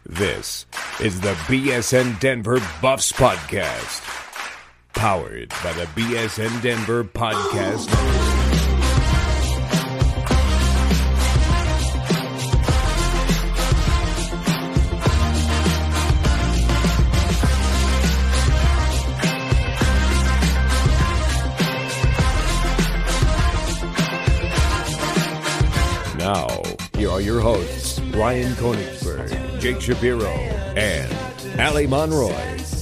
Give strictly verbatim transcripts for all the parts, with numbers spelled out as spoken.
This is the B S N Denver Buffs Podcast, powered by the B S N Denver Podcast Network. Now, here are your hosts, Ryan Koenigsberg, Jake Shapiro, and Ali Monroy.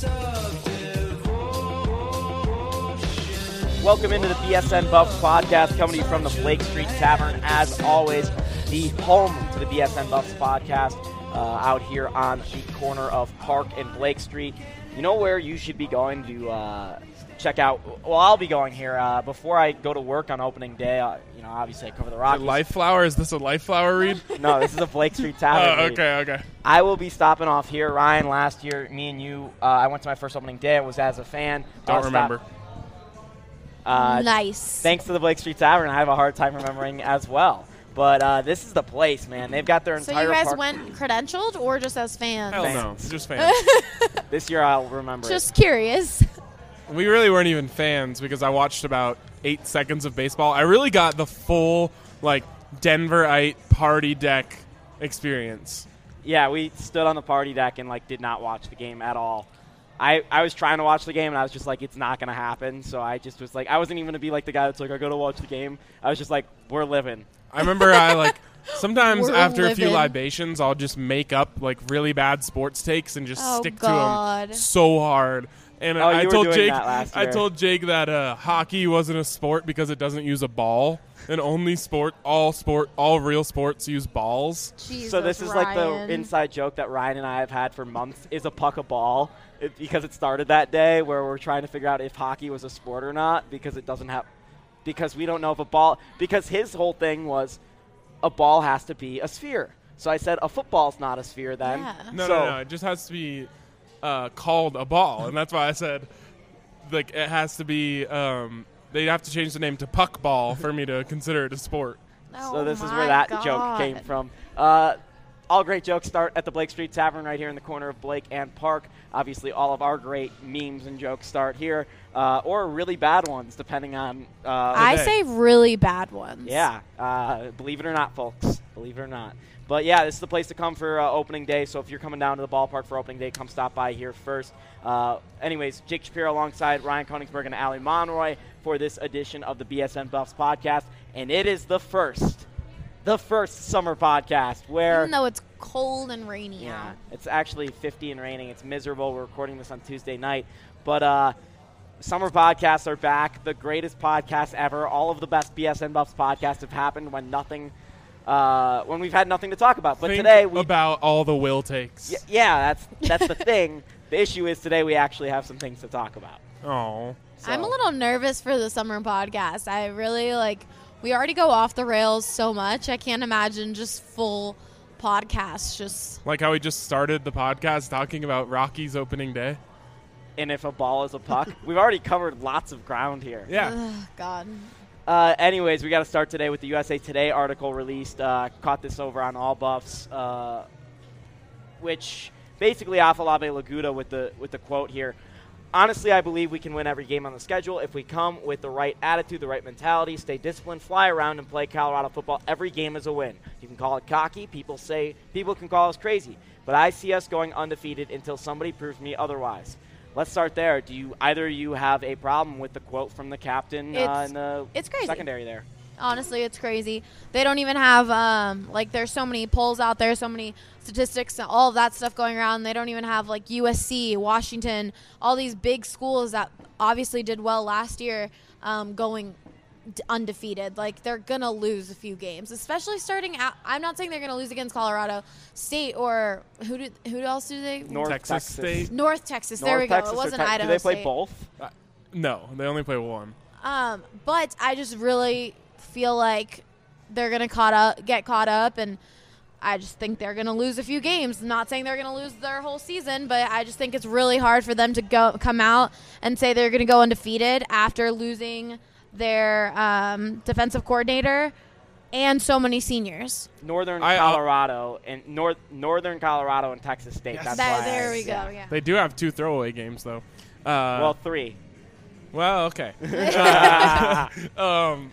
Welcome into the B S N Buffs Podcast, coming to you from the Blake Street Tavern. As always, the home to the B S N Buffs Podcast, uh, out here on the corner of Park and Blake Street. You know where you should be going to uh, check out? Well, I'll be going here uh, before I go to work on opening day. Uh, you know, obviously I cover the Rockies. Life Flower? Is this a Life Flower read? No, this is a Blake Street Tavern. Oh, read. okay, okay. I will be stopping off here. Ryan, last year, me and you, uh, I went to my first opening day. I was as a fan. Don't I'll remember. Stop. Uh, nice. Thanks to the Blake Street Tavern, I have a hard time remembering as well. But uh, this is the place, man. They've got their So entire you guys park. went credentialed or just as fans? Hell no, Fans. just fans. This year I'll remember Just curious. We really weren't even fans because I watched about eight seconds of baseball. I really got the full, like, Denverite party deck experience. it. Yeah, we stood on the party deck and, like, did not watch the game at all. I, I was trying to watch the game, and I was just like, it's not going to happen. So I just was like, I wasn't even going to be like the guy that's like, I got to watch the game. I was just like, we're living. I remember I, like, sometimes We're after a few living. libations, I'll just make up, like, really bad sports takes and just Oh, stick God. to them so hard. And Oh, I you were told doing Jake, that last I year. told Jake that uh, hockey wasn't a sport because it doesn't use a ball, and only sport, all sport, all real sports use balls. Jesus, So this is like Ryan. the inside joke that Ryan and I have had for months, is a puck a ball, it, because it started that day where we're trying to figure out if hockey was a sport or not, because it doesn't have, because we don't know if a ball, because his whole thing was a ball has to be a sphere. So I said a football's not a sphere then. Yeah. No, So- no, no. It just has to be uh, called a ball, and that's why I said, like, it has to be. Um, they'd have to change the name to puck ball for me to consider it a sport. Oh So this is my where that God. joke came from. Uh, all great jokes start at the Blake Street Tavern right here in the corner of Blake and Park. Obviously, all of our great memes and jokes start here, uh, or really bad ones, depending on. Uh, I day. say really bad ones. Yeah, uh, believe it or not, folks. Believe it or not. But, yeah, this is the place to come for uh, opening day. So if you're coming down to the ballpark for opening day, come stop by here first. Uh, anyways, Jake Shapiro alongside Ryan Koenigsberg and Ali Monroy for this edition of the B S N Buffs Podcast. And it is the first, the first summer podcast where... Even though it's cold and rainy Yeah, out. it's actually fifty and raining. It's miserable. We're recording this on Tuesday night. But uh, summer podcasts are back. The greatest podcast ever. All of the best B S N Buffs podcasts have happened when nothing... Uh, when we've had nothing to talk about. But Think today we about all the will takes. y- yeah, that's that's the thing. The issue is today we actually have some things to talk about. Oh, So- I'm a little nervous for the summer podcast. I really, like, we already go off the rails so much. I can't imagine just full podcasts. Just, like how we just started the podcast talking about Rockies opening day. And if a ball is a puck, we've already covered lots of ground here. Yeah. ugh, God. Uh, anyways, we got to start today with the U S A Today article released. Uh, caught this over on All Buffs, uh, which basically Afolabi Laguda with the with the quote here. Honestly, I believe we can win every game on the schedule if we come with the right attitude, the right mentality, stay disciplined, fly around, and play Colorado football. Every game is a win. You can call it cocky. People say people can call us crazy, but I see us going undefeated until somebody proves me otherwise. Let's start there. Do you either of you have a problem with the quote from the captain uh, It's- in the it's crazy. secondary there? Honestly, it's crazy. They don't even have, um, like, there's so many polls out there, so many statistics, all of that stuff going around. They don't even have, like, U S C, Washington, all these big schools that obviously did well last year um, going d- undefeated. Like, they're going to lose a few games, especially starting out. I'm not saying they're going to lose against Colorado State or who did, who else do they? North Texas Texas State? North Texas. North there we Texas go. It or wasn't Tex- Idaho Do they play State. both? Uh, no, they only play one. Um, but I just really feel like they're gonna caught up, get caught up, and I just think they're gonna lose a few games. Not saying they're gonna lose their whole season, but I just think it's really hard for them to go come out and say they're gonna go undefeated after losing their um, defensive coordinator and so many seniors. Northern I, uh, Colorado and North Northern Colorado and Texas State. Yes. That's That- why there I- we go. Yeah. They do have two throwaway games, though. Uh, Well, three. Well, okay. um,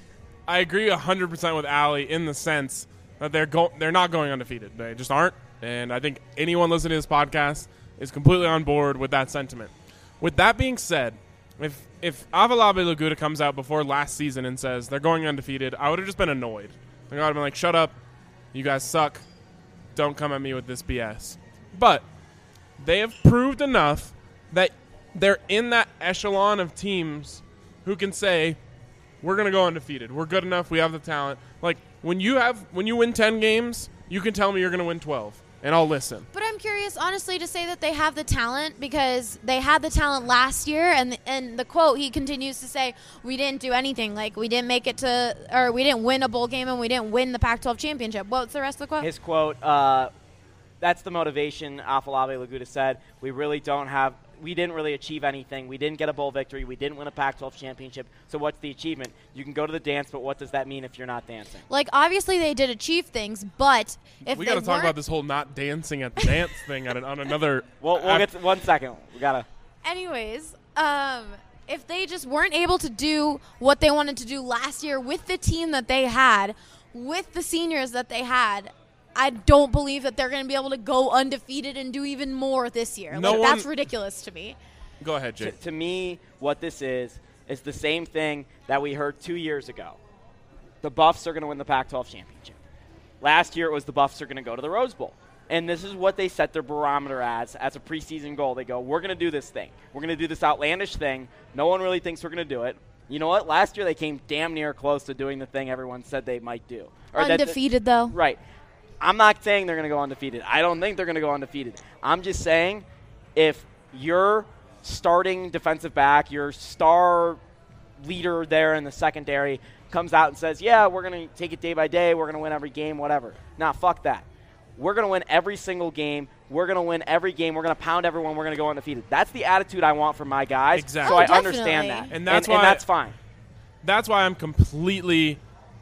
I agree one hundred percent with Allie in the sense that they're go- they're not going undefeated. They just aren't. And I think anyone listening to this podcast is completely on board with that sentiment. With that being said, if if Avalabe Laguda comes out before last season and says they're going undefeated, I would have just been annoyed. I would have been like, shut up. You guys suck. Don't come at me with this B S. But they have proved enough that they're in that echelon of teams who can say, we're going to go undefeated. We're good enough. We have the talent. Like, when you have when you win ten games, you can tell me you're going to win twelve, and I'll listen. But I'm curious, honestly, to say that they have the talent because they had the talent last year, and and the quote he continues to say, "We didn't do anything. Like we didn't make it to, or we didn't win a bowl game, and we didn't win the Pac twelve championship." What's the rest of the quote? His quote, uh, that's the motivation Afalabi Laguda said. We really don't have – we didn't really achieve anything. We didn't get a bowl victory. We didn't win a Pac twelve championship. So what's the achievement? You can go to the dance, but what does that mean if you're not dancing? Like obviously they did achieve things, but if we they got to talk weren't- about this whole not dancing at the dance thing on, an, on another – Well, we'll get to one second. We got to – Anyways, um, if they just weren't able to do what they wanted to do last year with the team that they had, with the seniors that they had, I don't believe that they're going to be able to go undefeated and do even more this year. No like, one- that's ridiculous to me. Go ahead, to, Jake. to me, what this is is the same thing that we heard two years ago. The Buffs are going to win the Pac twelve championship. Last year, it was the Buffs are going to go to the Rose Bowl. And this is what they set their barometer as, as a preseason goal. They go, we're going to do this thing. We're going to do this outlandish thing. No one really thinks we're going to do it. You know what? Last year, they came damn near close to doing the thing everyone said they might do. Or that- Undefeated, though. Right. I'm not saying they're going to go undefeated. I don't think they're going to go undefeated. I'm just saying if your starting defensive back, your star leader there in the secondary comes out and says, yeah, we're going to take it day by day. We're going to win every game, whatever. Nah, fuck that. We're going to win every single game. We're going to win every game. We're going to pound everyone. We're going to go undefeated. That's the attitude I want from my guys. Exactly. So Oh, I definitely. understand that. And that's and, why- and that's fine. That's why I'm completely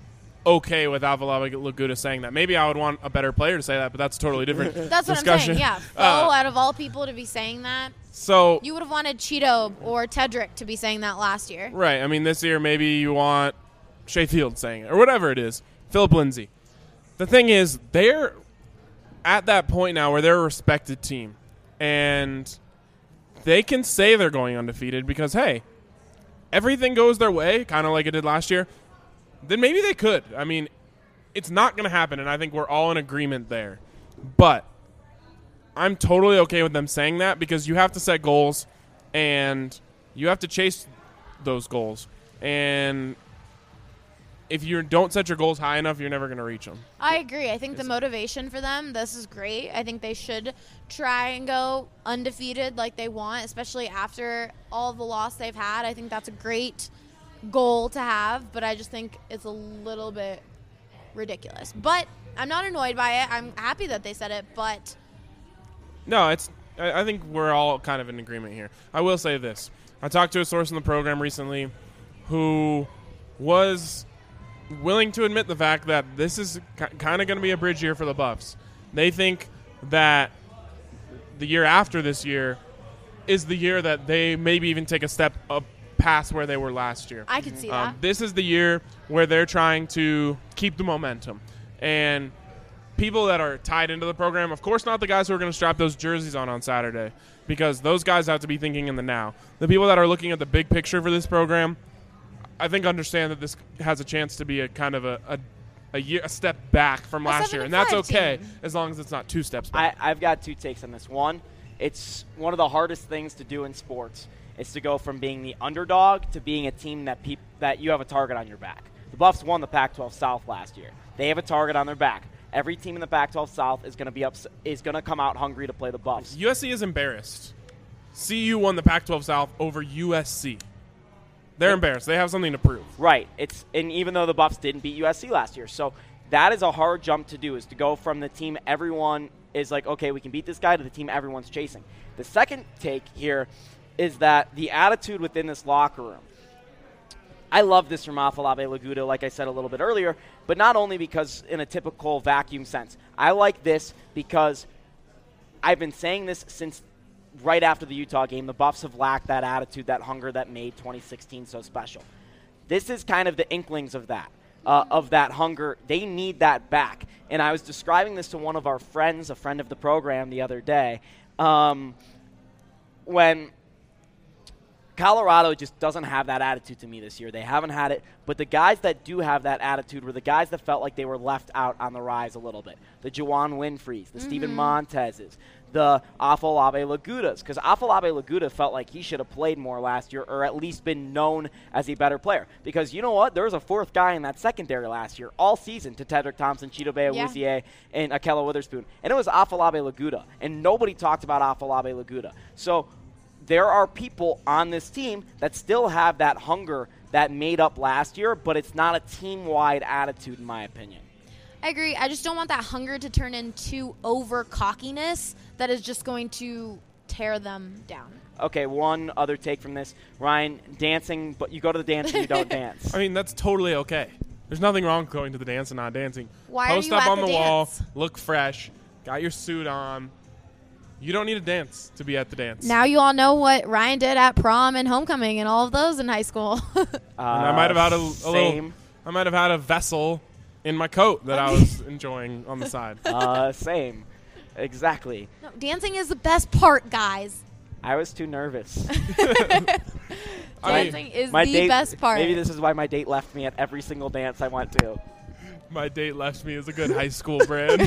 okay with Avalabe Laguda saying that. Maybe I would want a better player to say that, but that's a totally different That's what discussion. I'm saying, yeah. Fo, Uh, out of all people to be saying that, so you would have wanted Cheeto or Tedrick to be saying that last year. right. I mean, this year maybe you want Shea Field saying it or whatever it is. Philip Lindsay. The thing is, they're at that point now where they're a respected team, and they can say they're going undefeated because hey, everything goes their way, kind of like it did last year. Then maybe they could. I mean, it's not going to happen, and I think we're all in agreement there. But I'm totally okay with them saying that because you have to set goals, and you have to chase those goals. And if you don't set your goals high enough, you're never going to reach them. I agree. I think the motivation for them, this is great. I think they should try and go undefeated like they want, especially after all the loss they've had. I think that's a great goal to have, but I just think it's a little bit ridiculous. But I'm not annoyed by it. I'm happy that they said it, but No, it's. I I think we're all kind of in agreement here. I will say this. I talked to a source in the program recently who was willing to admit the fact that this is ki- kind of going to be a bridge year for the Buffs. They think that the year after this year is the year that they maybe even take a step up past where they were last year. I could see that. Um, this is the year where they're trying to keep the momentum. And people that are tied into the program, of course not the guys who are going to strap those jerseys on on Saturday, because those guys have to be thinking in the now. The people that are looking at the big picture for this program, I think understand that this has a chance to be a kind of a, a, a, year, a step back from A last seven year. and And that's five okay team. as long as it's not two steps back. I, I've got two takes on this. One, it's one of the hardest things to do in sports is to go from being the underdog to being a team that peop- that you have a target on your back. The Buffs won the Pac twelve South last year. They have a target on their back. Every team in the Pac twelve South is going to be ups- is going to come out hungry to play the Buffs. U S C is embarrassed. C U won the Pac twelve South over U S C. They're embarrassed. They have something to prove. Right. It's and even though the Buffs didn't beat U S C last year, so that is a hard jump to do. Is to go from the team everyone is like, okay, we can beat this guy, to the team everyone's chasing. The second take here is that the attitude within this locker room. I love this from Afolabi Laguda, like I said a little bit earlier, but not only because in a typical vacuum sense. I like this because I've been saying this since right after the Utah game. The Buffs have lacked that attitude, that hunger that made twenty sixteen so special. This is kind of the inklings of that, uh, of that hunger. They need that back. And I was describing this to one of our friends, a friend of the program, the other day, um, when – Colorado just doesn't have that attitude to me this year. They haven't had it, but the guys that do have that attitude were the guys that felt like they were left out on the rise a little bit. The Juwan Winfreys, the mm-hmm. Steven Montezes, the Afolabi Lagudas, because Afolabi Laguda felt like he should have played more last year or at least been known as a better player. Because you know what? There was a fourth guy in that secondary last year all season to Tedrick Thompson, Chidobe Awuzie, yeah. and Akella Witherspoon. And it was Afolabi Laguda, and nobody talked about Afolabi Laguda. So there are people on this team that still have that hunger that made up last year, but it's not a team-wide attitude, in my opinion. I agree. I just don't want that hunger to turn into over-cockiness that is just going to tear them down. Okay, one other take from this. Ryan, dancing, but you go to the dance and you don't dance. I mean, that's totally okay. There's nothing wrong with going to the dance and not dancing. Why Post are you up at on the the dance? wall, look fresh, got your suit on. You don't need to dance to be at the dance. Now you all know what Ryan did at prom and homecoming and all of those in high school. uh, and I might have had a, a little. I might have had a vessel in my coat that I was enjoying on the side. Uh, same, exactly. No, dancing is the best part, guys. I was too nervous. Dancing is my the date, best part. Maybe this is why my date left me at every single dance I went to. My date left me as a good high school brand.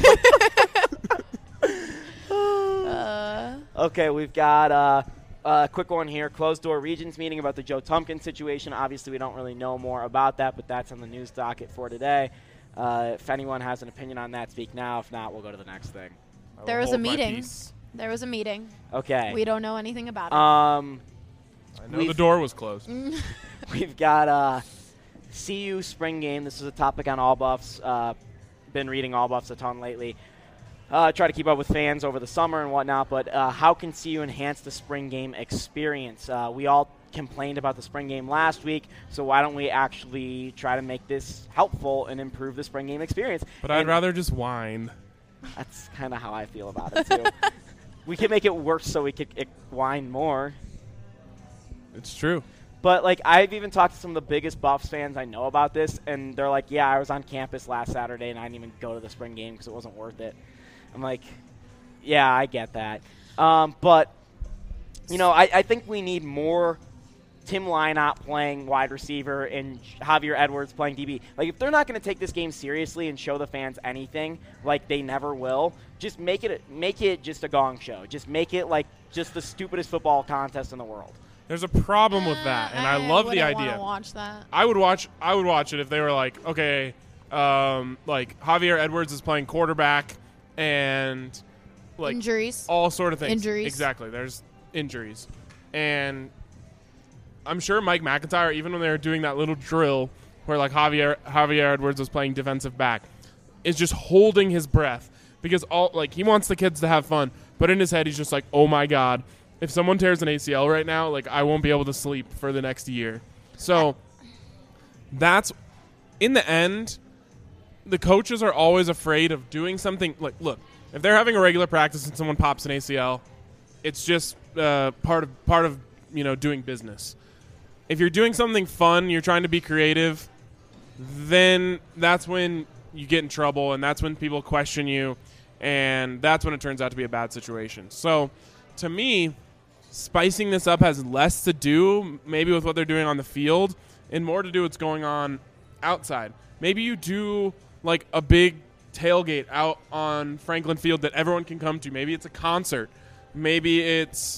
Uh, okay, we've got uh, a quick one here. Closed-door Regents meeting about the Joe Tumpkin situation. Obviously, we don't really know more about that, but that's on the news docket for today. Uh, if anyone has an opinion on that, speak now. If not, we'll go to the next thing. There was a meeting. There was a meeting. Okay. We don't know anything about it. Um, I know the door was closed. We've got uh, C U spring game. This is a topic on All Buffs. Uh, been reading All Buffs a ton lately. Uh, try to keep up with fans over the summer and whatnot, but uh, how can C U enhance the spring game experience? Uh, we all complained about the spring game last week, so why don't we actually try to make this helpful and improve the spring game experience? But and I'd rather just whine. That's kind of how I feel about it, too. We can make it worse so we could it, whine more. It's true. But, like, I've even talked to some of the biggest Buffs fans I know about this, and they're like, yeah, I was on campus last Saturday, and I didn't even go to the spring game because it wasn't worth it. I'm like, yeah, I get that. Um, but, you know, I, I think we need more Tim Lynott playing wide receiver and Javier Edwards playing D B. Like, if they're not going to take this game seriously and show the fans anything, like they never will, just make it make it just a gong show. Just make it like just the stupidest football contest in the world. There's a problem with that, and I, I love the wouldn't idea. wanna watch that. I would watch. I would watch it if they were like, okay, um, like Javier Edwards is playing quarterback, and like injuries, all sort of things. Injuries, exactly. There's injuries, and I'm sure Mike McIntyre, even when they were doing that little drill where like Javier Javier Edwards was playing defensive back, is just holding his breath because all like he wants the kids to have fun, but in his head he's just like, oh my god. If someone tears an A C L right now, like I won't be able to sleep for the next year. So that's in the end, the coaches are always afraid of doing something. Like, look, if they're having a regular practice and someone pops an A C L, it's just uh, part of part of you know doing business. If you're doing something fun, you're trying to be creative, then that's when you get in trouble, and that's when people question you, and that's when it turns out to be a bad situation. So, to me, spicing this up has less to do maybe with what they're doing on the field and more to do with what's going on outside. Maybe you do like a big tailgate out on Franklin Field that everyone can come to. Maybe it's a concert. Maybe it's,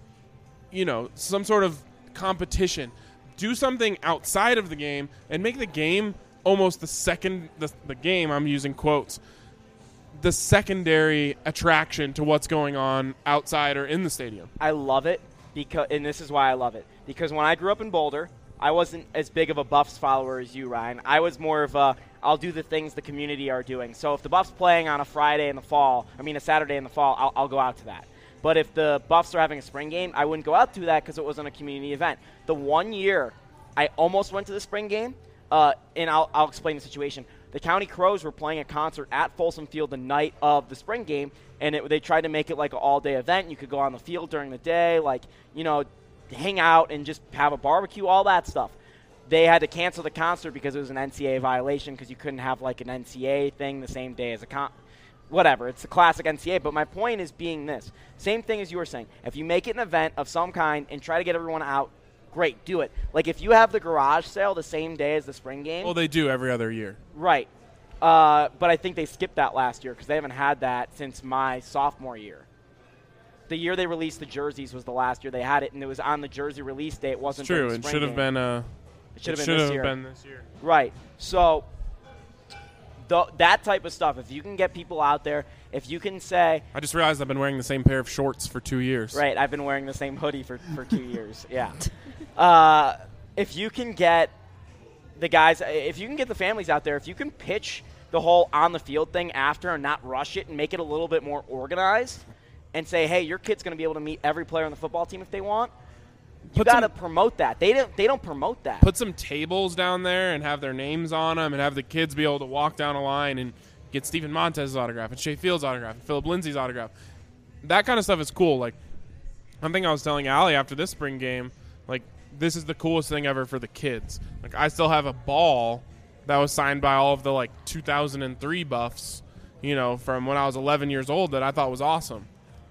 you know, some sort of competition. Do something outside of the game and make the game almost the second, the, the game, I'm using quotes, the secondary attraction to what's going on outside or in the stadium. I love it, because, and this is why I love it. Because when I grew up in Boulder, I wasn't as big of a Buffs follower as you, Ryan. I was more of a, I'll do the things the community are doing. So if the Buffs playing on a Friday in the fall, I mean a Saturday in the fall, I'll, I'll go out to that. But if the Buffs are having a spring game, I wouldn't go out to that because it wasn't a community event. The one year I almost went to the spring game, uh, and I'll, I'll explain the situation. The County Crows were playing a concert at Folsom Field the night of the spring game, and it, they tried to make it like an all-day event. You could go on the field during the day, like, you know, hang out and just have a barbecue, all that stuff. They had to cancel the concert because it was an N C double A violation because you couldn't have like an N C double A thing the same day as a con. Whatever, it's a classic N C double A. But my point is being this. Same thing as you were saying. If you make it an event of some kind and try to get everyone out, great, do it. Like if you have the garage sale the same day as the spring game. Well, they do every other year. Right. Uh, but I think they skipped that last year because they haven't had that since my sophomore year. The year they released the jerseys was the last year they had it, and it was on the jersey release day. It wasn't. It's true. The It spring should have game. been. Uh, It should have it been, should this have year. been this year. Right. So the, that type of stuff, if you can get people out there, if you can say. I just realized I've been wearing the same pair of shorts for two years. Right. I've been wearing the same hoodie for, for two years. Yeah. Uh, if you can get the guys, if you can get the families out there, if you can pitch the whole on the field thing after and not rush it and make it a little bit more organized and say, hey, your kid's going to be able to meet every player on the football team if they want. You got to promote that. They don't. They don't promote that. Put some tables down there and have their names on them, and have the kids be able to walk down a line and get Stephen Montez's autograph and Shea Field's autograph and Philip Lindsay's autograph. That kind of stuff is cool. Like, one thing I was telling Allie after this spring game, like, this is the coolest thing ever for the kids. Like, I still have a ball that was signed by all of the like two thousand three Buffs, you know, from when I was eleven years old that I thought was awesome.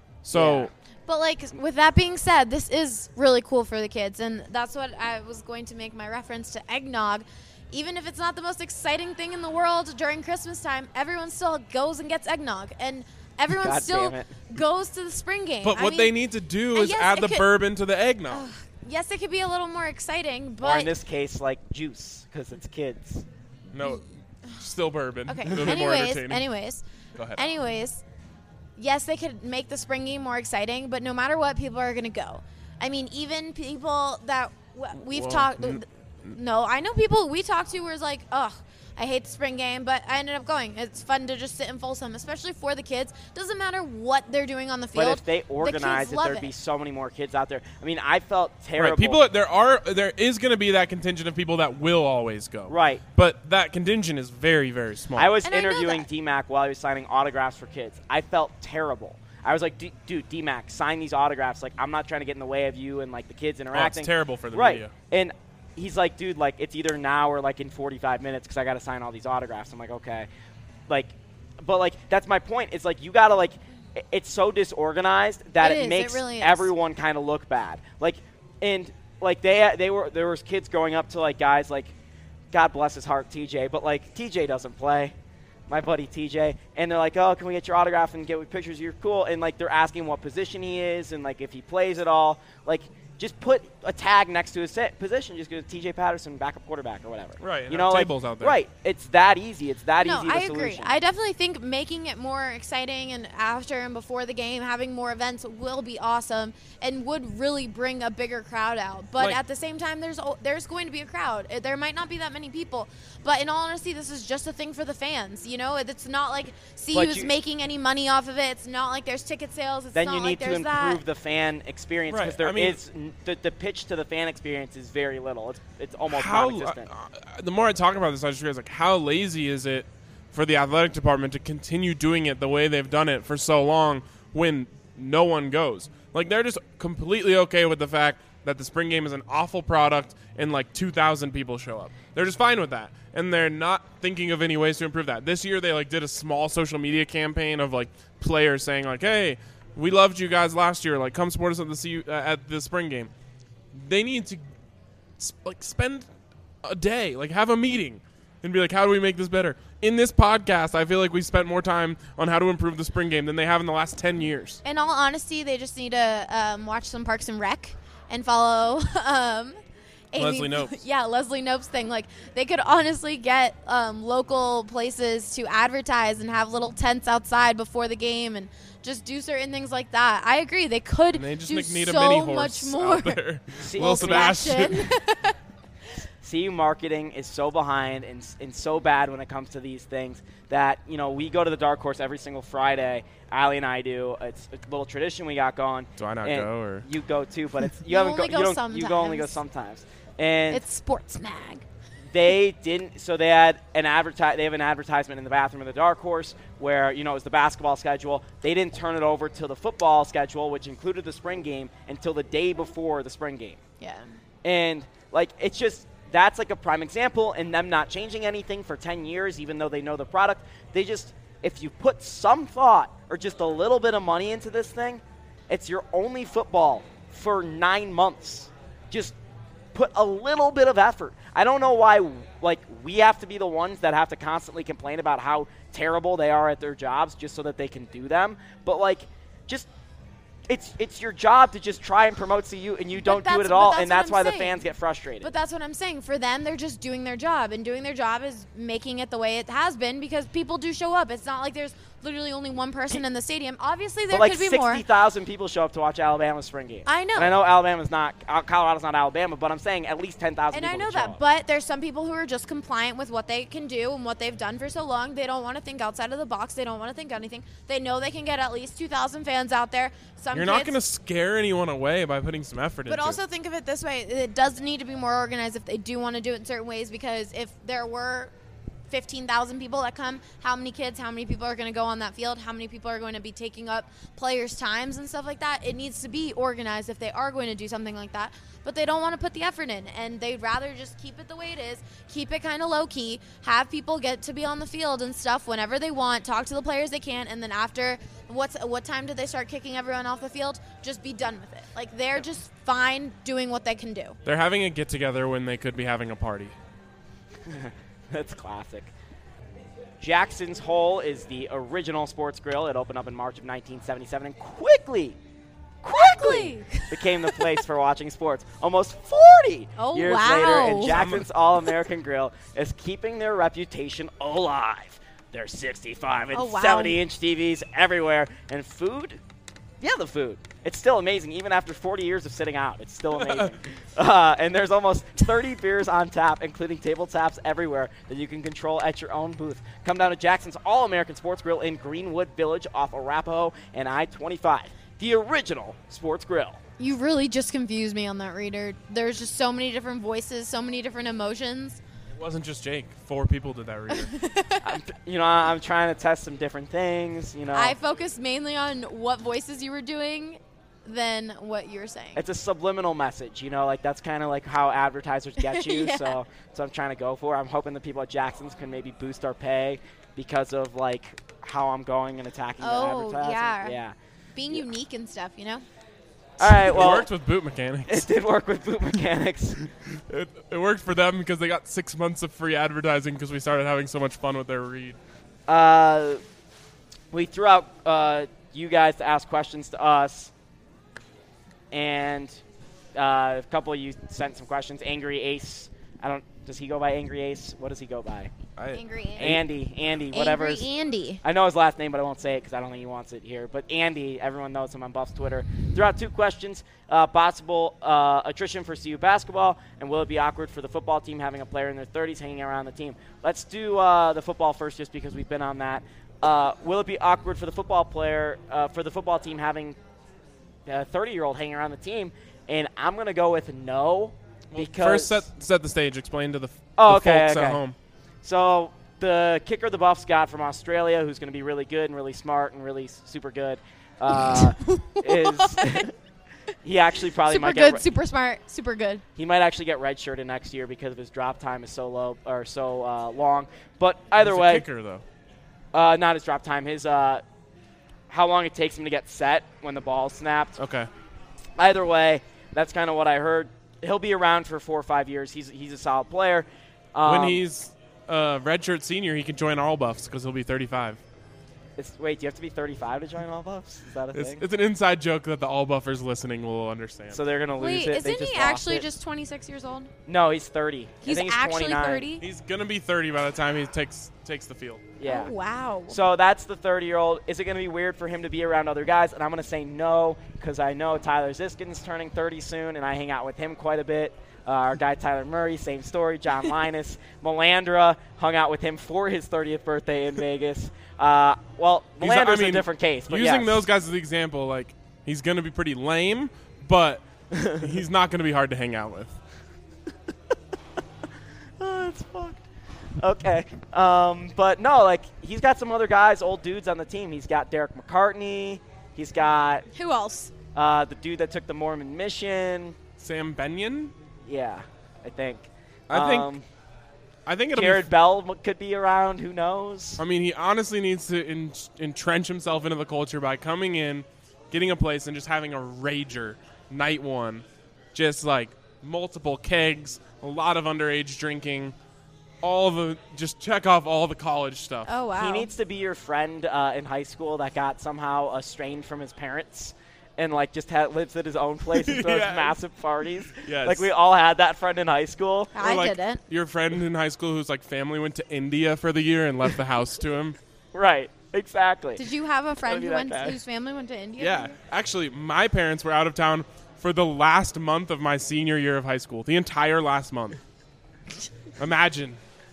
So. Yeah. But, like, with that being said, this is really cool for the kids, and that's what I was going to make my reference to eggnog. Even if it's not the most exciting thing in the world during Christmas time, everyone still goes and gets eggnog, and everyone God still damn it. goes to the spring game. But I what mean, they need to do I is guess add it the could- bourbon to the eggnog. Yes, it could be a little more exciting, Or but in this case, like juice, because it's kids. No, still bourbon. okay. A little bit more anyways, entertaining. anyways, Go ahead. anyways, yes, they could make the spring game more exciting, but no matter what, people are going to go. I mean, even people that w- we've Well, talked. n- No, I know people we talked to were like, ugh, I hate the spring game, but I ended up going. It's fun to just sit in Folsom, especially for the kids. Doesn't matter what they're doing on the field. But if they the organize kids it, love there'd it. be so many more kids out there. I mean, I felt terrible. Right, people. There are there is going to be that contingent of people that will always go. Right. But that contingent is very very small. I was And I know interviewing that. D Mac while he was signing autographs for kids. I felt terrible. I was like, "D- dude, D Mac, sign these autographs. Like, I'm not trying to get in the way of you and like the kids Oh, it's interacting. terrible for the right. media. And he's like, dude, like it's either now or like in forty-five minutes because I got to sign all these autographs. I'm like, okay, like, but like that's my point. It's like you got to like, i- it's so disorganized that It it, is, it makes really is. everyone kind of look bad. Like, and like they they were there was kids going up to like guys like, God bless his heart, T J, but like T J doesn't play. My buddy T J, and they're like, oh, can we get your autograph and get pictures? You're cool. And like they're asking what position he is and like if he plays at all. Like just put a tag next to his set position. Just go T J Patterson, backup quarterback or whatever. Right, and You have know, like, tables out there. Right. It's that easy. It's that No, easy. of a I agree. solution. I definitely think making it more exciting and after and before the game, having more events will be awesome and would really bring a bigger crowd out. But Like- at the same time, there's o- there's going to be a crowd. Uh, There might not be that many people, but in all honesty, this is just a thing for the fans. You know, it's not like C U But is you- making any money off of it. It's not like there's ticket sales. It's then not you like need to there's improve that. the fan experience Right, because there I mean- is n- the, the pitch to the fan experience is very little. It's it's almost How non-existent. uh, the more I talk about this, I just realize like how lazy is it for the athletic department to continue doing it the way they've done it for so long when no one goes. Like they're just completely okay with the fact that the spring game is an awful product and like two thousand people show up. They're just fine with that, and they're not thinking of any ways to improve that. This year they like did a small social media campaign of like players saying like, "Hey, we loved you guys last year. Like, come support us at the C U, uh, at the spring game." They need to s- like spend a day, like have a meeting, and be like, "How do we make this better?" In this podcast, I feel like we spent more time on how to improve the spring game than they have in the last ten years. In all honesty, they just need to um, watch some Parks and Rec and follow um, Amy- Leslie Nopes. Yeah, Leslie Nopes thing. Like they could honestly get um, local places to advertise and have little tents outside before the game and just do certain things like that. I agree. They could And they just do make- need so a mini much horse more. out there. See- Will Sebastian. Sebastian. C U marketing is so behind and, and so bad when it comes to these things that, you know, we go to the Dark Horse every single Friday. Allie and I do. It's a little tradition we got going. Do I not And go, or- You go too, but it's you, You haven't only go, go you don't you go only go sometimes. sometimes. And It's Sports Mag. they didn't. So they had an adverti- They have an advertisement in the bathroom of the Dark Horse where you know it was the basketball schedule. They didn't turn it over to the football schedule, which included the spring game, until the day before the spring game. Yeah. And like it's just that's like a prime example, and them not changing anything for ten years, even though they know the product. They just if you put some thought or just a little bit of money into this thing, it's your only football for nine months. Just put a little bit of effort. I don't know why, like, we have to be the ones that have to constantly complain about how terrible they are at their jobs just so that they can do them. But, like, just it's it's your job to just try and promote C U, and you don't do it at all, that's and that's what why I'm the saying. fans get frustrated. But that's what I'm saying. For them, they're just doing their job, and doing their job is making it the way it has been because people do show up. It's not like there's literally only one person in the stadium. Obviously, there but like could be more. sixty thousand people show up to watch Alabama's spring game. I know. And I know Alabama's not, uh, Colorado's not Alabama, but I'm saying at least ten thousand And people I know would show that, up. but there's some people who are just compliant with what they can do and what they've done for so long. They don't want to think outside of the box. They don't want to think anything. They know they can get at least two thousand fans out there. Some You're not kids- going to scare anyone away by putting some effort into But it. also think of it this way: it does need to be more organized if they do want to do it in certain ways. Because if there were fifteen thousand people that come, how many kids, how many people are going to go on that field? How many people are going to be taking up players' times and stuff like that? It needs to be organized if they are going to do something like that. But they don't want to put the effort in, and they'd rather just keep it the way it is, keep it kind of low key, have people get to be on the field and stuff whenever they want, talk to the players they can, and then after what's what time do they start kicking everyone off the field? Just be done with it. Like they're just fine doing what they can do. They're having a get-together when they could be having a party. That's classic. Jackson's Hole is the original sports grill. It opened up in March of nineteen seventy-seven and quickly, quickly became the place for watching sports. Almost forty Oh, years wow. later, and Jackson's All-American Grill is keeping their reputation alive. There's sixty-five and Oh, wow. seventy inch T Vs everywhere, and food. Yeah, the food. It's still amazing, even after forty years of sitting out. It's still amazing. uh, and there's almost thirty beers on tap, including table taps everywhere that you can control at your own booth. Come down to Jackson's All-American Sports Grill in Greenwood Village off Arapahoe and I twenty-five. The original sports grill. You really just confused me on that reader. There's just so many different voices, so many different emotions. It wasn't just Jake. Four people did that reader. I'm, you know, I'm trying to test some different things, you know. I focused mainly on what voices you were doing than what you were saying. It's a subliminal message, you know, like that's kind of like how advertisers get you. Yeah. So, so I'm trying to go for. I'm hoping the people at Jackson's can maybe boost our pay because of like how I'm going and attacking Oh, the advertising. yeah. Yeah. Being Yeah. unique and stuff, you know? All right. Well, it worked with boot mechanics. it did work with boot mechanics. It, it worked for them because they got six months of free advertising because we started having so much fun with their read. Uh, we threw out uh, you guys to ask questions to us, and uh, a couple of you sent some questions. Angry Ace. I don't. Does he go by Angry Ace? What does he go by? I, Angry Andy. Andy. Andy. Whatever. Angry Andy. I know his last name, but I won't say it because I don't think he wants it here. But Andy, everyone knows him on Buff's Twitter. Threw out two questions. Uh, possible uh, attrition for C U basketball, and will it be awkward for the football team having a player in their thirties hanging around the team? Let's do uh, the football first just because we've been on that. Uh, will it be awkward for the football player, uh, for the football team having a thirty-year-old hanging around the team? And I'm going to go with no. Because First, set set the stage. Explain to the, f- Oh, the okay, folks okay. at home. So the kicker the Buffs got from Australia, who's going to be really good and really smart and really s- super good, uh, is he actually probably Super might good, get re- super smart, super good. he might actually get redshirted next year because of his drop time is so low or so uh, long. But either He's a way, kicker though. uh, not his drop time, his uh, how long it takes him to get set when the ball's snapped. Okay. Either way, that's kind of what I heard. He'll be around for four or five years. He's he's a solid player. Um, when he's a redshirt senior, he can join All Buffs because he'll be thirty-five. it's, wait, do you have to be thirty-five to join All Buffs? Is that a It's, thing? it's an inside joke that the All Buffers listening will understand. So they're gonna lose Wait, it. They isn't just he lost actually it. just twenty-six years old? No, he's thirty. I He's think he's actually twenty-nine. thirty? He's gonna be thirty by the time he takes takes the field. Yeah. Oh, wow. So that's the thirty-year-old. Is it going to be weird for him to be around other guys? And I'm going to say no because I know Tyler Ziskin's turning thirty soon, and I hang out with him quite a bit. Uh, our guy Tyler Murray, same story. John Linus. Melandra hung out with him for his thirtieth birthday in Vegas. Uh, well, He's- Melandra's I mean, a different case. But using yes. those guys as the example, like he's gonna be pretty lame, but he's not gonna be hard to hang out with. That's fucked. Okay. Um, but no, like, he's got some other guys, old dudes on the team. He's got Derek McCartney. He's got Who else? uh, the dude that took the Mormon mission. Sam Benyon. Yeah, I think. I think. Um, I think it'll Jared be. Bell m- could be around. Who knows? I mean, he honestly needs to en- entrench himself into the culture by coming in, getting a place, and just having a rager night one, just like multiple kegs, a lot of underage drinking, all the just check off all the college stuff. Oh wow. He needs to be your friend uh, in high school that got somehow estranged from his parents and, like, just ha- lives at his own place and throws Yes. massive parties. Yes. Like, we all had that friend in high school. I Or, like, didn't. Your friend in high school whose like family went to India for the year and left the house to him. Right, exactly. Did you have a friend be who that went guy. whose family went to India? Yeah, actually, my parents were out of town for the last month of my senior year of high school. The entire last month. Imagine.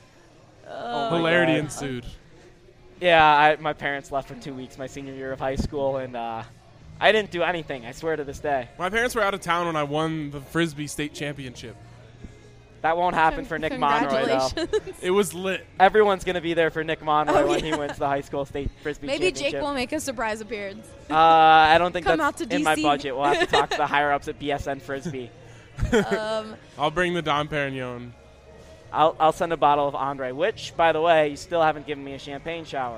Oh my Hilarity God. ensued. Yeah, I, my parents left for two weeks my senior year of high school, and uh, I didn't do anything, I swear to this day. My parents were out of town when I won the Frisbee state championship. That won't happen for Nick Monroy, though. Congratulations. It was lit. Everyone's going to be there for Nick Monroy Oh, when yeah. he wins the high school state Frisbee Maybe championship. Jake will make a surprise appearance. Uh, I don't think Come that's out to in my D C. budget. We'll have to talk to the higher-ups at B S N Frisbee. um, I'll bring the Dom Perignon. I'll, I'll send a bottle of Andre, which, by the way, you still haven't given me a champagne shower.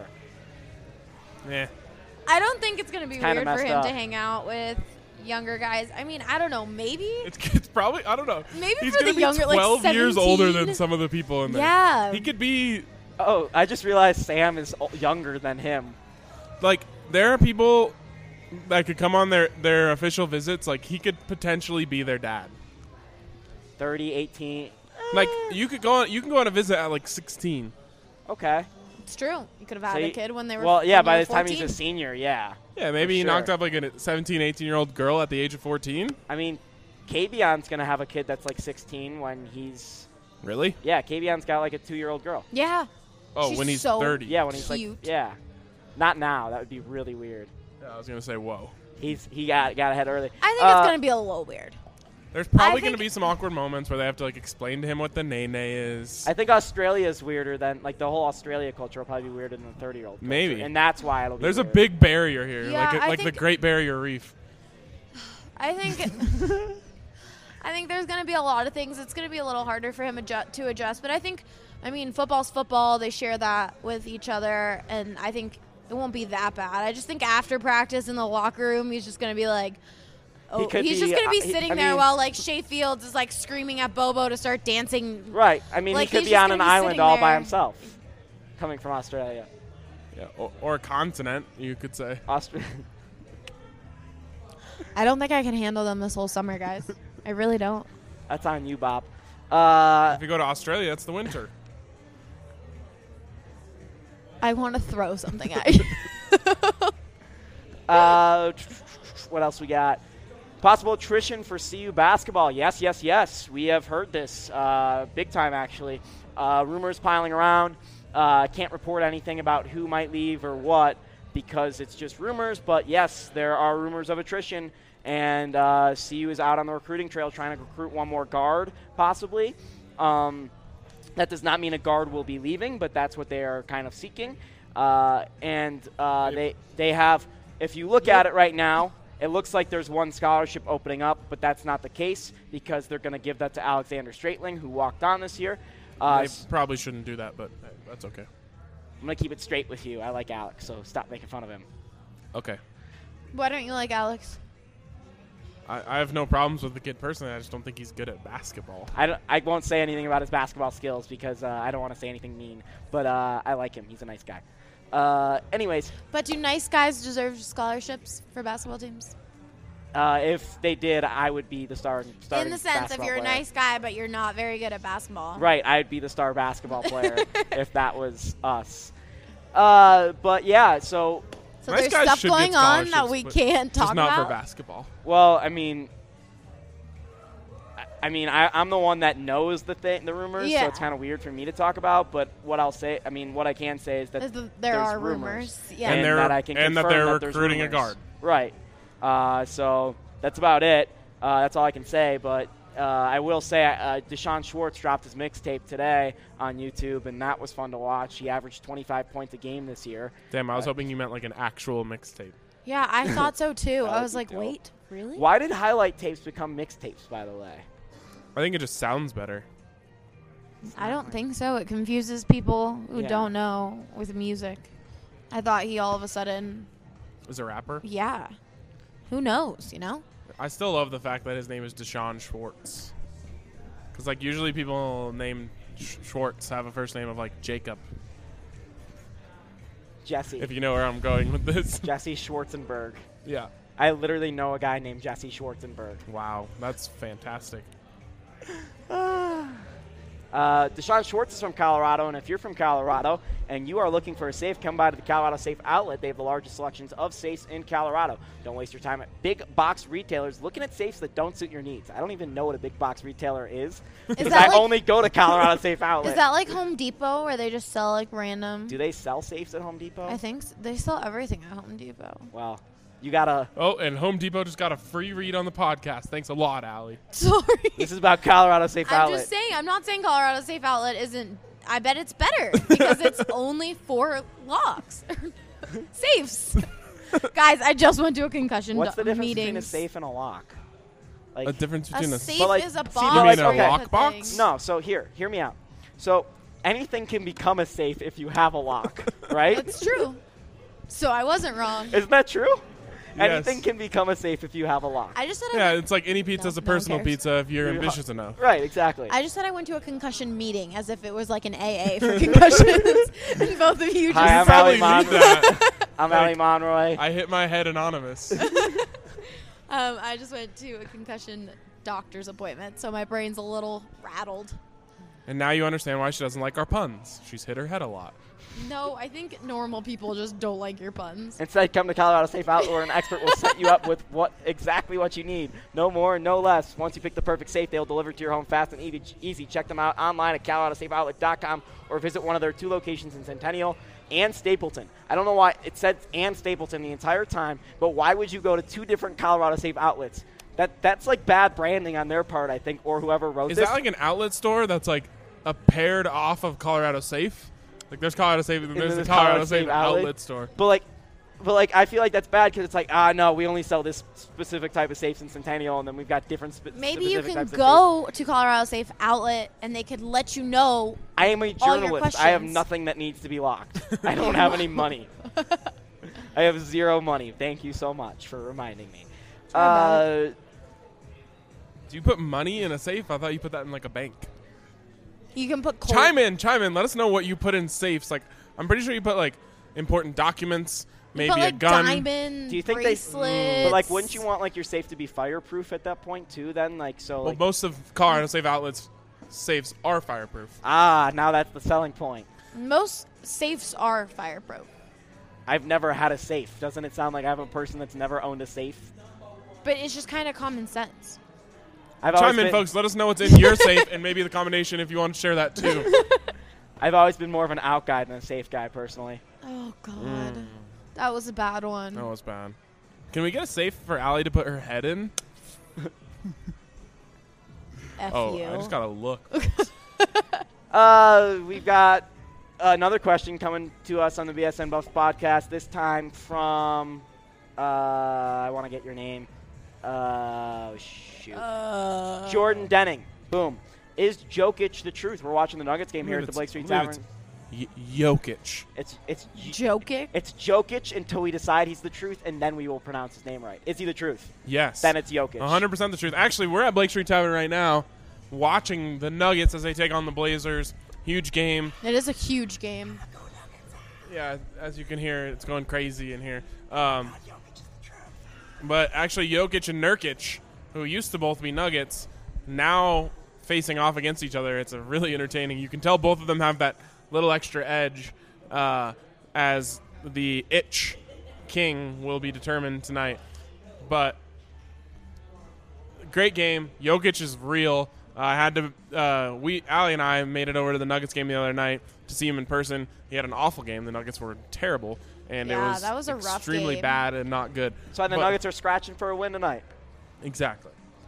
Yeah. I don't think it's gonna be Kinda weird for messed him up. to hang out with younger guys. I mean, I don't know. Maybe. It's, it's probably, I don't know. Maybe He's for gonna the be younger, like, twelve years older than seventeen. some of the people in there. Yeah. He could be, Oh, I just realized Sam is o- younger than him. like, there are people that could come on their, their official visits. Like, he could potentially be their dad. thirty, eighteen. Like, you could go on, you can go on a visit at, like, sixteen. Okay. It's true. You could have had So a you- kid when they were. Well, yeah, when by they the were time he's fourteen. a senior, yeah. Yeah, maybe For he knocked sure. up, like, a seventeen, eighteen-year-old girl at the age of fourteen. I mean, Kavion's going to have a kid that's like sixteen when he's... Really? Yeah, Kavion's got like a two-year-old girl. Yeah. Oh, She's when he's so thirty. Yeah, when he's Cute. like... Yeah. Not now. That would be really weird. Yeah, I was going to say, whoa. He's He got, got ahead early. I think Uh, it's gonna be a little weird. There's probably I going to think- be some awkward moments where they have to, like, explain to him what the nene is. I think Australia is weirder than... Like, the whole Australia culture will probably be weirder than the thirty-year-old culture. Maybe. And that's why it'll be There's a weird. big barrier here, Yeah, like, I like the think- Great Barrier Reef. I think. I think there's gonna be a lot of things. It's gonna be a little harder for him adju- to adjust. But I think, I mean, football's football. They share that with each other, and I think it won't be that bad. I just think after practice in the locker room, he's just gonna be like. Oh, could he's be, just gonna be uh, he- sitting I there mean- while like Shea Fields is like screaming at Bobo to start dancing. Right. I mean, Like, he could he's be just on gonna an be island sitting all by there. himself, coming from Australia. Yeah, or, or a continent, you could say. Austra- I don't think I can handle them this whole summer, guys. I really don't. That's on you, Bob. Uh, If you go to Australia, it's the winter. I want to throw something at you. uh, what else we got? Possible attrition for C U basketball. Yes, yes, yes. We have heard this uh, big time, actually. Uh, rumors piling around. Uh, can't report anything about who might leave or what because it's just rumors. But yes, there are rumors of attrition, and uh, C U is out on the recruiting trail trying to recruit one more guard, possibly. Um, that does not mean a guard will be leaving, but that's what they are kind of seeking. Uh, and uh, they they have, if you look at it right now, it looks like there's one scholarship opening up, but that's not the case because they're going to give that to Alexander Straitling, who walked on this year. Uh, They s- probably shouldn't do that, but hey, that's okay. I'm going to keep it straight with you. I like Alex, so stop making fun of him. Okay. Why don't you like Alex? I, I have no problems with the kid personally. I just don't think he's good at basketball. I, don't- I won't say anything about his basketball skills because uh, I don't want to say anything mean, but uh, I like him. He's a nice guy. Uh, anyways, But do nice guys deserve scholarships for basketball teams? uh, if they did, I would be the star. In the sense, if you're a nice guy but you're not very good at basketball. Right, I'd be the star basketball player if that was us. Uh, but yeah, so So Nice there's guys stuff should get going on that scholarships, we but can't talk Just not about. for basketball. well, I mean, I- I mean, I, I'm the one that knows the thing, the rumors, Yeah. so it's kind of weird for me to talk about. But what I'll say, I mean, what I can say is that Is the- there there's are rumors. rumors. Yeah. and, And they're- that I can and that confirm they're there's recruiting a rumors. guard. Right. Uh, so that's about it. Uh, that's all I can say. But uh, I will say uh, Deshaun Schwartz dropped his mixtape today on YouTube, and that was fun to watch. He averaged twenty-five points a game this year. Damn, I was Uh, hoping you meant like an actual mixtape. Yeah, I thought so too. That I would was be like, dope. wait, really? Why did highlight tapes become mixtapes, by the way? I think it just sounds better. I don't think so. It confuses people who Yeah. don't know with music. I thought he all of a sudden, Is a rapper. yeah. Who knows, you know? I still love the fact that his name is Deshaun Schwartz. Because like usually people named Sch- Schwartz have a first name of like Jacob. Jesse. If you know where I'm going with this. Jesse Schwarzenberg. Yeah. I literally know a guy named Jesse Schwarzenberg. Wow, that's fantastic. Uh, Deshaun Schwartz is from Colorado, and if you're from Colorado and you are looking for a safe, come by to the Colorado Safe Outlet. They have the largest selections of safes in Colorado. Don't waste your time at big box retailers looking at safes that don't suit your needs. I don't even know what a big box retailer is because that I like- only go to Colorado Safe Outlet. Is that like Home Depot where they just sell like random? Do they sell safes at Home Depot? I think s they sell everything at Home Depot. Well, you gotta. Oh, and Home Depot just got a free read on the podcast. Thanks a lot, Allie. Sorry. This is about Colorado Safe I'm Outlet. just saying, I'm not saying Colorado Safe Outlet isn't. I bet it's better because it's only four locks. Safes. Guys, I just went to a concussion What's the do- difference meeting. between a safe and a lock? Like A difference A between a, safe But, like, is a see, box. you mean a where you lock put box? things. No, so here, hear me out. So anything can become a safe if you have a lock, right? That's true. So I wasn't wrong. Isn't that true? Yes. Anything can become a safe if you have a lock. I just said I Yeah, went, it's like any pizza's No, a no one personal cares. pizza if you're You- ambitious enough. Right, exactly. I just said I went to a concussion meeting as if it was like an A A for concussions, and both of you just. Hi, I'm Probably Ali need Monroy. that. I'm Like- Ali Monroy. I hit my head anonymous. um, I just went to a concussion doctor's appointment, so my brain's a little rattled. And now you understand why she doesn't like our puns. She's hit her head a lot. No, I think normal people just don't like your puns. Instead, come to Colorado Safe Outlet where an expert will set you up with what exactly what you need. No more, no less. Once you pick the perfect safe, they'll deliver to your home fast and easy. easy. Check them out online at colorado safe outlet dot com or visit one of their two locations in Centennial and Stapleton. I don't know why it said and Stapleton the entire time, but why would you go to two different Colorado Safe Outlets? That That's like bad branding on their part, I think, or whoever wrote Is this. that like an outlet store that's like a paired off of Colorado Safe? Like there's Colorado Safe and And there's then the there's Colorado, Colorado Safe Safe outlet. outlet store. But like, but like, I feel like that's bad because it's like, ah, no, we only sell this specific type of safes in Centennial, and then we've got different. Spe- Maybe you specific can types of go to Colorado Safe Outlet and they could let you know. safes. I am a all your journalist. I have questions. nothing that needs to be locked. I don't have any money. I have zero money. Thank you so much for reminding me. Sorry about Uh, Do you put money in a safe? I thought you put that in like a bank. You can put cold. Chime in, chime in. Let us know what you put in safes. Like I'm pretty sure you put like important documents, you maybe put, like, a gun. diamond do you think bracelets. they? But like, wouldn't you want like your safe to be fireproof at that point too? Then like, so Well, like, most of Colorado Safe outlets safes are fireproof. ah, now that's the selling point. Most safes are fireproof. I've never had a safe. Doesn't it sound like I'm a person that's never owned a safe? But it's just kind of common sense. I've always Chime in, been- folks. Let us know what's in your safe and maybe the combination if you want to share that too. I've always been more of an out guy than a safe guy, personally. Oh, God. Mm. That was a bad one. That was bad. Can we get a safe for Allie to put her head in? F Oh, you. I just got to look. Uh, we've got another question coming to us on the B S N Buffs podcast. This time from, uh, I want to get your name. Uh, shoot. Uh, Jordan Denning. Boom. Is Jokic the truth? We're watching the Nuggets game here at the Blake Street Tavern. Y- Jokic. It's it's Jokic? it's Jokic until we decide he's the truth, and then we will pronounce his name right. Is he the truth? Yes. Then it's Jokic. one hundred percent the truth. Actually, we're at Blake Street Tavern right now watching the Nuggets as they take on the Blazers. Huge game. It is a huge game. Yeah, as you can hear, it's going crazy in here. Um, but actually, Jokic and Nurkic, who used to both be Nuggets, now facing off against each other. It's a really entertaining. You can tell both of them have that little extra edge uh, as the itch king will be determined tonight. But great game. Jokic is real. Uh, I had to. Uh, we Allie and I made it over to the Nuggets game the other night to see him in person. He had an awful game. The Nuggets were terrible, and Yeah, it was, that was a rough extremely game. bad and not good. So the But- Nuggets are scratching for a win tonight. Exactly.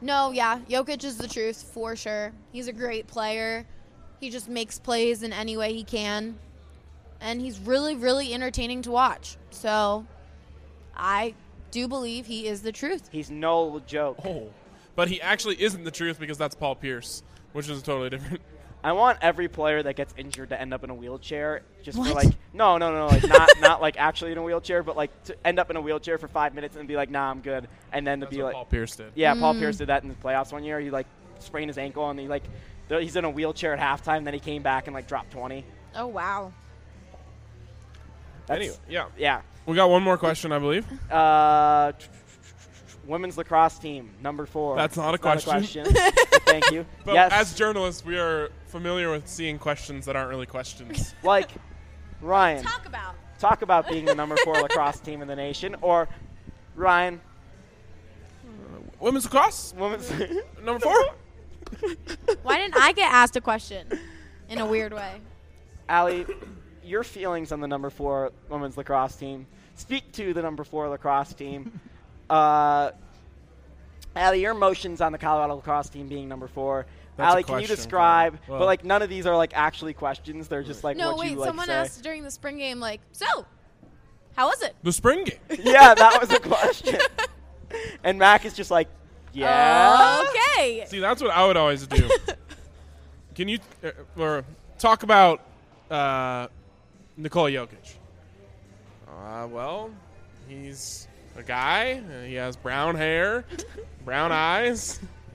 No, yeah, Jokic is the truth for sure. He's a great player. He just makes plays in any way he can. And he's really, really entertaining to watch. So I do believe he is the truth. He's no joke. Oh. But he actually isn't the truth because that's Paul Pierce, which is totally different. I want every player that gets injured to end up in a wheelchair, just What? for like no, no, no, like not not like actually in a wheelchair, but like to end up in a wheelchair for five minutes and be like, nah, I'm good, and then to That's be what like, Paul Pierce did. yeah, Paul Mm. Pierce did that in the playoffs one year. He like sprained his ankle and he like th- he's in a wheelchair at halftime. Then he came back and like dropped twenty. Oh, wow. That's, Anyway, yeah. yeah. We got one more question, I believe. Uh, women's lacrosse team number four. That's not a It's question. But thank you. But yes. as journalists, we are familiar with seeing questions that aren't really questions. like Ryan, Talk about. talk about being the number four lacrosse team in the nation, or Ryan, Women's lacrosse, women's. number four. Why didn't I get asked a question in a weird way? Allie, your feelings on the number four women's lacrosse team. Speak to the number four lacrosse team. Uh, Allie, your emotions on the Colorado lacrosse team being number four. That's a Allie, can you question, describe? Well- but like none of these are like actually questions. They're just like No, what wait, you like someone say. asked during the spring game, like, so, how was it? The spring game. Yeah, that was a question. And Mac is just like, yeah. Okay. See, that's what I would always do. Can you uh, or talk about uh, Nikola Jokic? Uh, well, he's a guy. Uh, he has brown hair, brown eyes.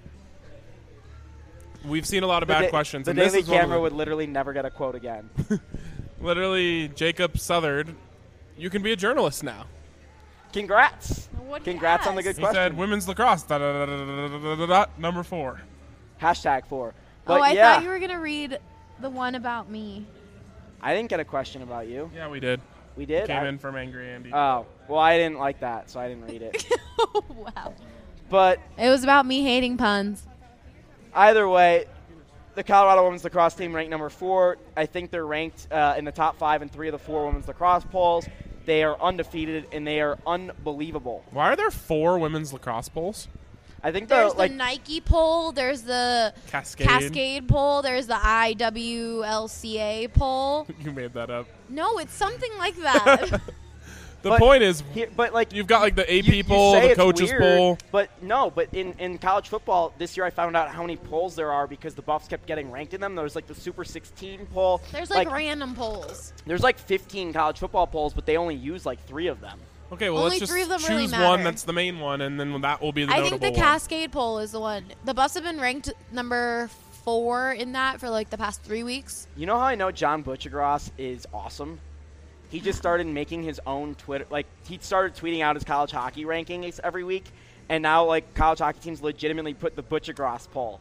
We've seen a lot of The bad da- questions. The and this Daily is one of Camera them. would literally never get a quote again. Literally, Jacob Southard, you can be a journalist now. Congrats. What Congrats on the good He question. said women's lacrosse, da, da, da, da, da, da, da, da, number four. Hashtag four. But Oh, I yeah, thought you were going to read the one about me. I didn't get a question about you. Yeah, we did. We did? Came I- in from Angry Andy. Oh, well, I didn't like that, so I didn't read it. Wow. But It was about me hating puns. either way, the Colorado women's lacrosse team ranked number four. I think they're ranked uh, in the top five in three of the four women's lacrosse polls. They are undefeated, and they are unbelievable. Why are there four women's lacrosse bowls? I think the There's like the Nike poll. There's the Cascade. Cascade poll. There's the I W L C A poll. You made that up. No, it's something like that. The But point is, here, but like you've got like the A you- P you poll, say the it's coaches weird, poll. But no, but in, in college football this year I found out how many polls there are because the Buffs kept getting ranked in them. There was like the Super sixteen poll. There's like, random polls. There's like fifteen college football polls, but they only use like three of them. Okay, well, Only let's just three of them choose really one matter. that's the main one, and then that will be the I notable think the one. Cascade poll is the one. The Buffs have been ranked number four in that for like the past three weeks. You know how I know John Butchergross is awesome? He just started making his own Twitter. Like, he started tweeting out his college hockey rankings every week, and now, like, college hockey teams legitimately put the Butchergross poll.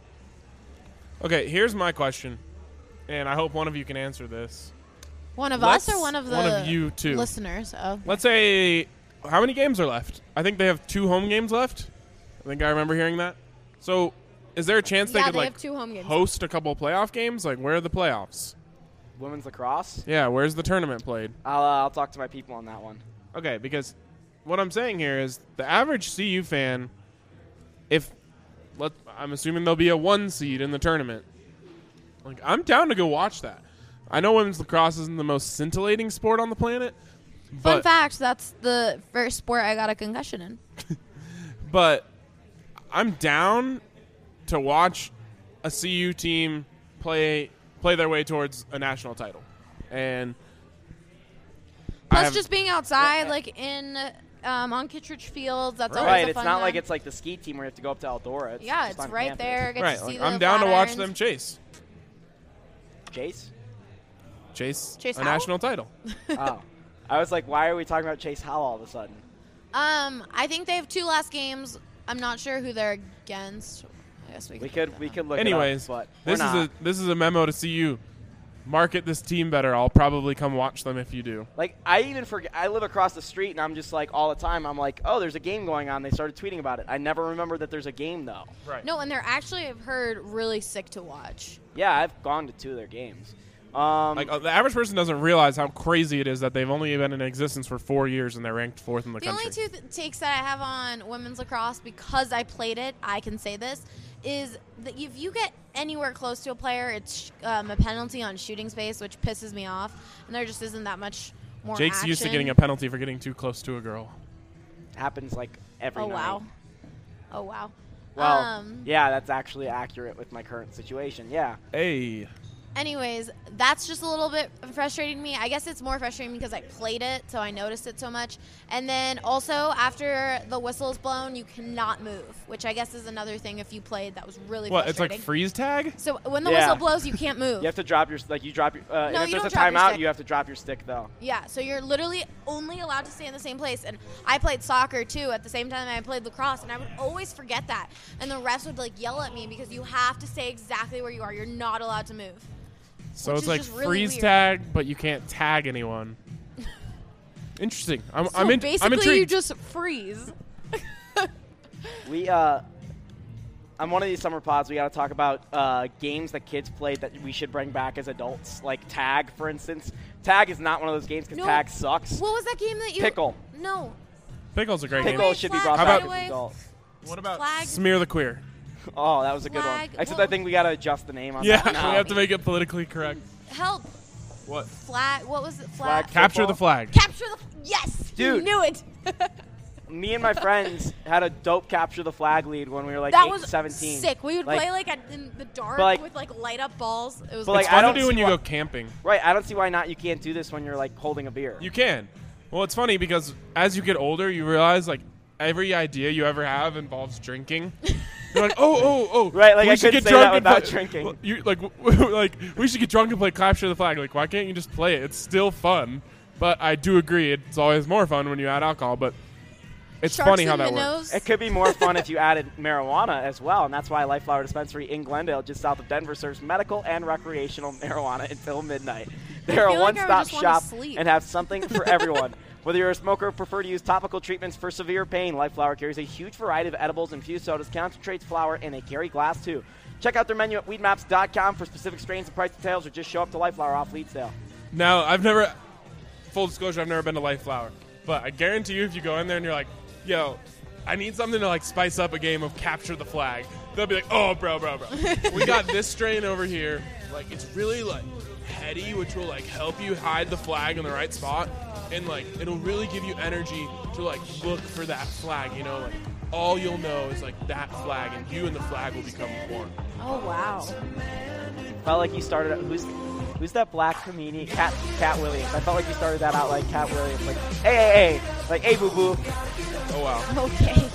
Okay, here's my question, and I hope one of you can answer this. One of Let's- us or one of the one of you two. listeners? Oh. Let's say, how many games are left? I think they have two home games left. I think I remember hearing that. So, is there a chance they Yeah, could they like have two home games. host a couple of playoff games? Like, where are the playoffs? Women's lacrosse? Yeah, where's the tournament played? I'll, uh, I'll talk to my people on that one. Okay, because what I'm saying here is the average C U fan, if let, I'm assuming there'll be a one seed in the tournament. Like, I'm down to go watch that. I know women's lacrosse isn't the most scintillating sport on the planet, Fun but fact: that's the first sport I got a concussion in. but I'm down to watch a C U team play play their way towards a national title, and I Plus, have- just being outside, like in um, on Kittredge Fields, that's Right. always Right, a it's fun not like time. it's like the ski team where you have to go up to Eldora. It's Yeah, just it's on right campus. there. Get right. to see Like, the I'm down to watch Flatirons. them chase Jace? chase, Chase a Howell? national title. Oh. I was like, why are we talking about Chase Howell all of a sudden? Um, I think they have two last games. I'm not sure who they're against. I guess we, We could. could we could look Anyways, it up, but this we're is not. a this is a memo to C U. Market this team better. I'll probably come watch them if you do. Like, I even forget. I live across the street, and I'm just like, all the time, I'm like, oh, there's a game going on. They started tweeting about it. I never remember that there's a game, though. Right. No, and they're actually, I've heard, really sick to watch. Yeah, I've gone to two of their games. Um, Like uh, the average person doesn't realize how crazy it is that they've only been in existence for four years and they're ranked fourth in the, The country. only two th- takes that I have on women's lacrosse, because I played it, I can say this, is that if you get anywhere close to a player, it's um, a penalty on shooting space, which pisses me off, and there just isn't that much more Jake's action. used to getting a penalty for getting too close to a girl. happens like every Oh, night. wow. Oh, wow. Well, um, yeah, that's actually accurate with my current situation. Yeah. Hey. Anyways, that's just a little bit frustrating me. I guess it's more frustrating because I played it, so I noticed it so much. And then also, after the whistle is blown, you cannot move, which I guess is another thing if you played that was really What? It's frustrating. like freeze tag? So when the Yeah. whistle blows, you can't move. You have to drop your like you drop your. Uh, No, and if you there's don't a drop your timeout, stick. you have to drop your stick though. Yeah, so you're literally only allowed to stay in the same place. And I played soccer too at the same time I played lacrosse, and I would always forget that. And the refs would like yell at me because you have to stay exactly where you are. You're not allowed to move. So Which it's is like just really freeze weird. tag, but you can't tag anyone. Interesting. I'm, So I'm, in, basically, I'm intrigued. you just freeze. We uh, on one of these summer pods, we got to talk about uh, games that kids played that we should bring back as adults, like tag, for instance. Tag is not one of those games because No. tag sucks. What was that game that you? Pickle. No. Pickle's a great Pickle. Pickle game. should be Flag, brought How back about- as adults. What about Flag? smear the queer? Oh, that was a good Flag. one. Except Well- I think we got to adjust the name on Yeah, that we now. have to make it politically correct. Help. What? Flag. What was it? Flag Flag. Capture Football? the flag. Capture the. Yes. Dude. You knew it. Me and my friends had a dope capture the flag lead when we were like that eight was to seventeen. sick. We would Like- play like at, in the dark But, like- with like light up balls. It was But, like, like, It's I fun don't to do see when you why- go camping. Right, I don't see why not. You can't do this when you're like holding a beer. You can. Well, it's funny because as you get older, you realize like every idea you ever have involves drinking. You're like, oh, oh, oh, Right, like, we I should couldn't get say that drunk and without play- drinking. Well, You like, w- like we should get drunk and play capture the flag. Like, why can't you just play it? It's still fun. But I do agree, it's always more fun when you add alcohol. But it's Sharks funny how and that minnows. works. It could be more fun if you added marijuana as well, and that's why Life Flower Dispensary in Glendale, just south of Denver, serves medical and recreational marijuana until midnight. They're a feel like I would one-stop just wanna shop sleep. and have something for everyone. Whether you're a smoker or prefer to use topical treatments for severe pain, Life Flower carries a huge variety of edibles, infused sodas, concentrates, flower, and they carry glass too. Check out their menu at weed maps dot com for specific strains and price details, or just show up to Life Flower off Leedsdale. Now, I've never, full disclosure, I've never been to Life Flower. But I guarantee you, if you go in there and you're like, yo, I need something to like spice up a game of capture the flag, they'll be like, oh, bro, bro, bro. We got this strain over here. Like, it's really like heady, which will like help you hide the flag in the right spot. And like, it'll really give you energy to like look for that flag, you know? Like, all you'll know is like that flag, and you and the flag will become one. Oh wow. Felt like you started out, who's who's that black comedian? Cat Cat Williams. I felt like you started that out like Cat Williams, like hey hey hey, like hey boo boo. Oh, wow. Okay.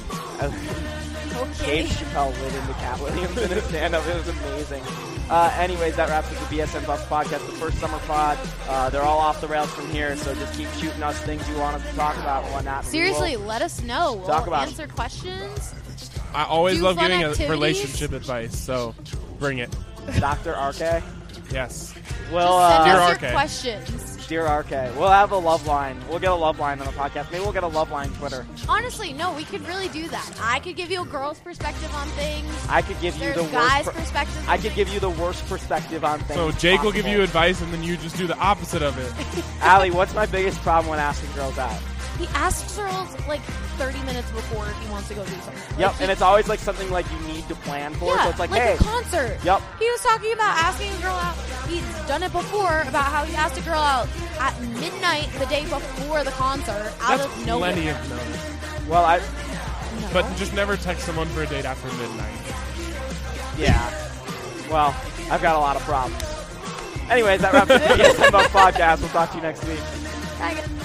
Dave Okay. Chappelle lit into Cat Williams in his stand-up. It was amazing. Uh, anyways, that wraps up the B S N Buffs podcast, the first summer pod. Uh, they're all off the rails from here, so just keep shooting us things you want us to talk about and whatnot. We Seriously, will- let us know. We'll Talk about it. answer questions. I always Do love fun giving a activities. relationship advice, so bring it. Doctor R K. Yes. Well, Just send uh, Dear us R your K. questions. Dear R K. We'll have a love line. We'll get a love line on the podcast. Maybe we'll get a love line Twitter. Honestly, no, we could really do that. I could give you a girl's perspective on things. I could give you There's the guys' worst. per- perspective. I could give you the worst perspective on things. So Jake will give possible. you advice, and then you just do the opposite of it. Allie, what's my biggest problem when asking girls out? He asks girls like thirty minutes before if he wants to go do something. Yep, Like, he- and it's always like something like you need to plan for. yeah, so it's like, like hey, a concert. Yep. He was talking about asking a girl out. He's done it before about how he asked a girl out at midnight the day before the concert out That's of nowhere. plenty of notice. well, I, No. But just never text someone for a date after midnight. yeah. Well, I've got a lot of problems. Anyways, that wraps up the B S N Buffs podcast. We'll talk to you next week. Bye, guys.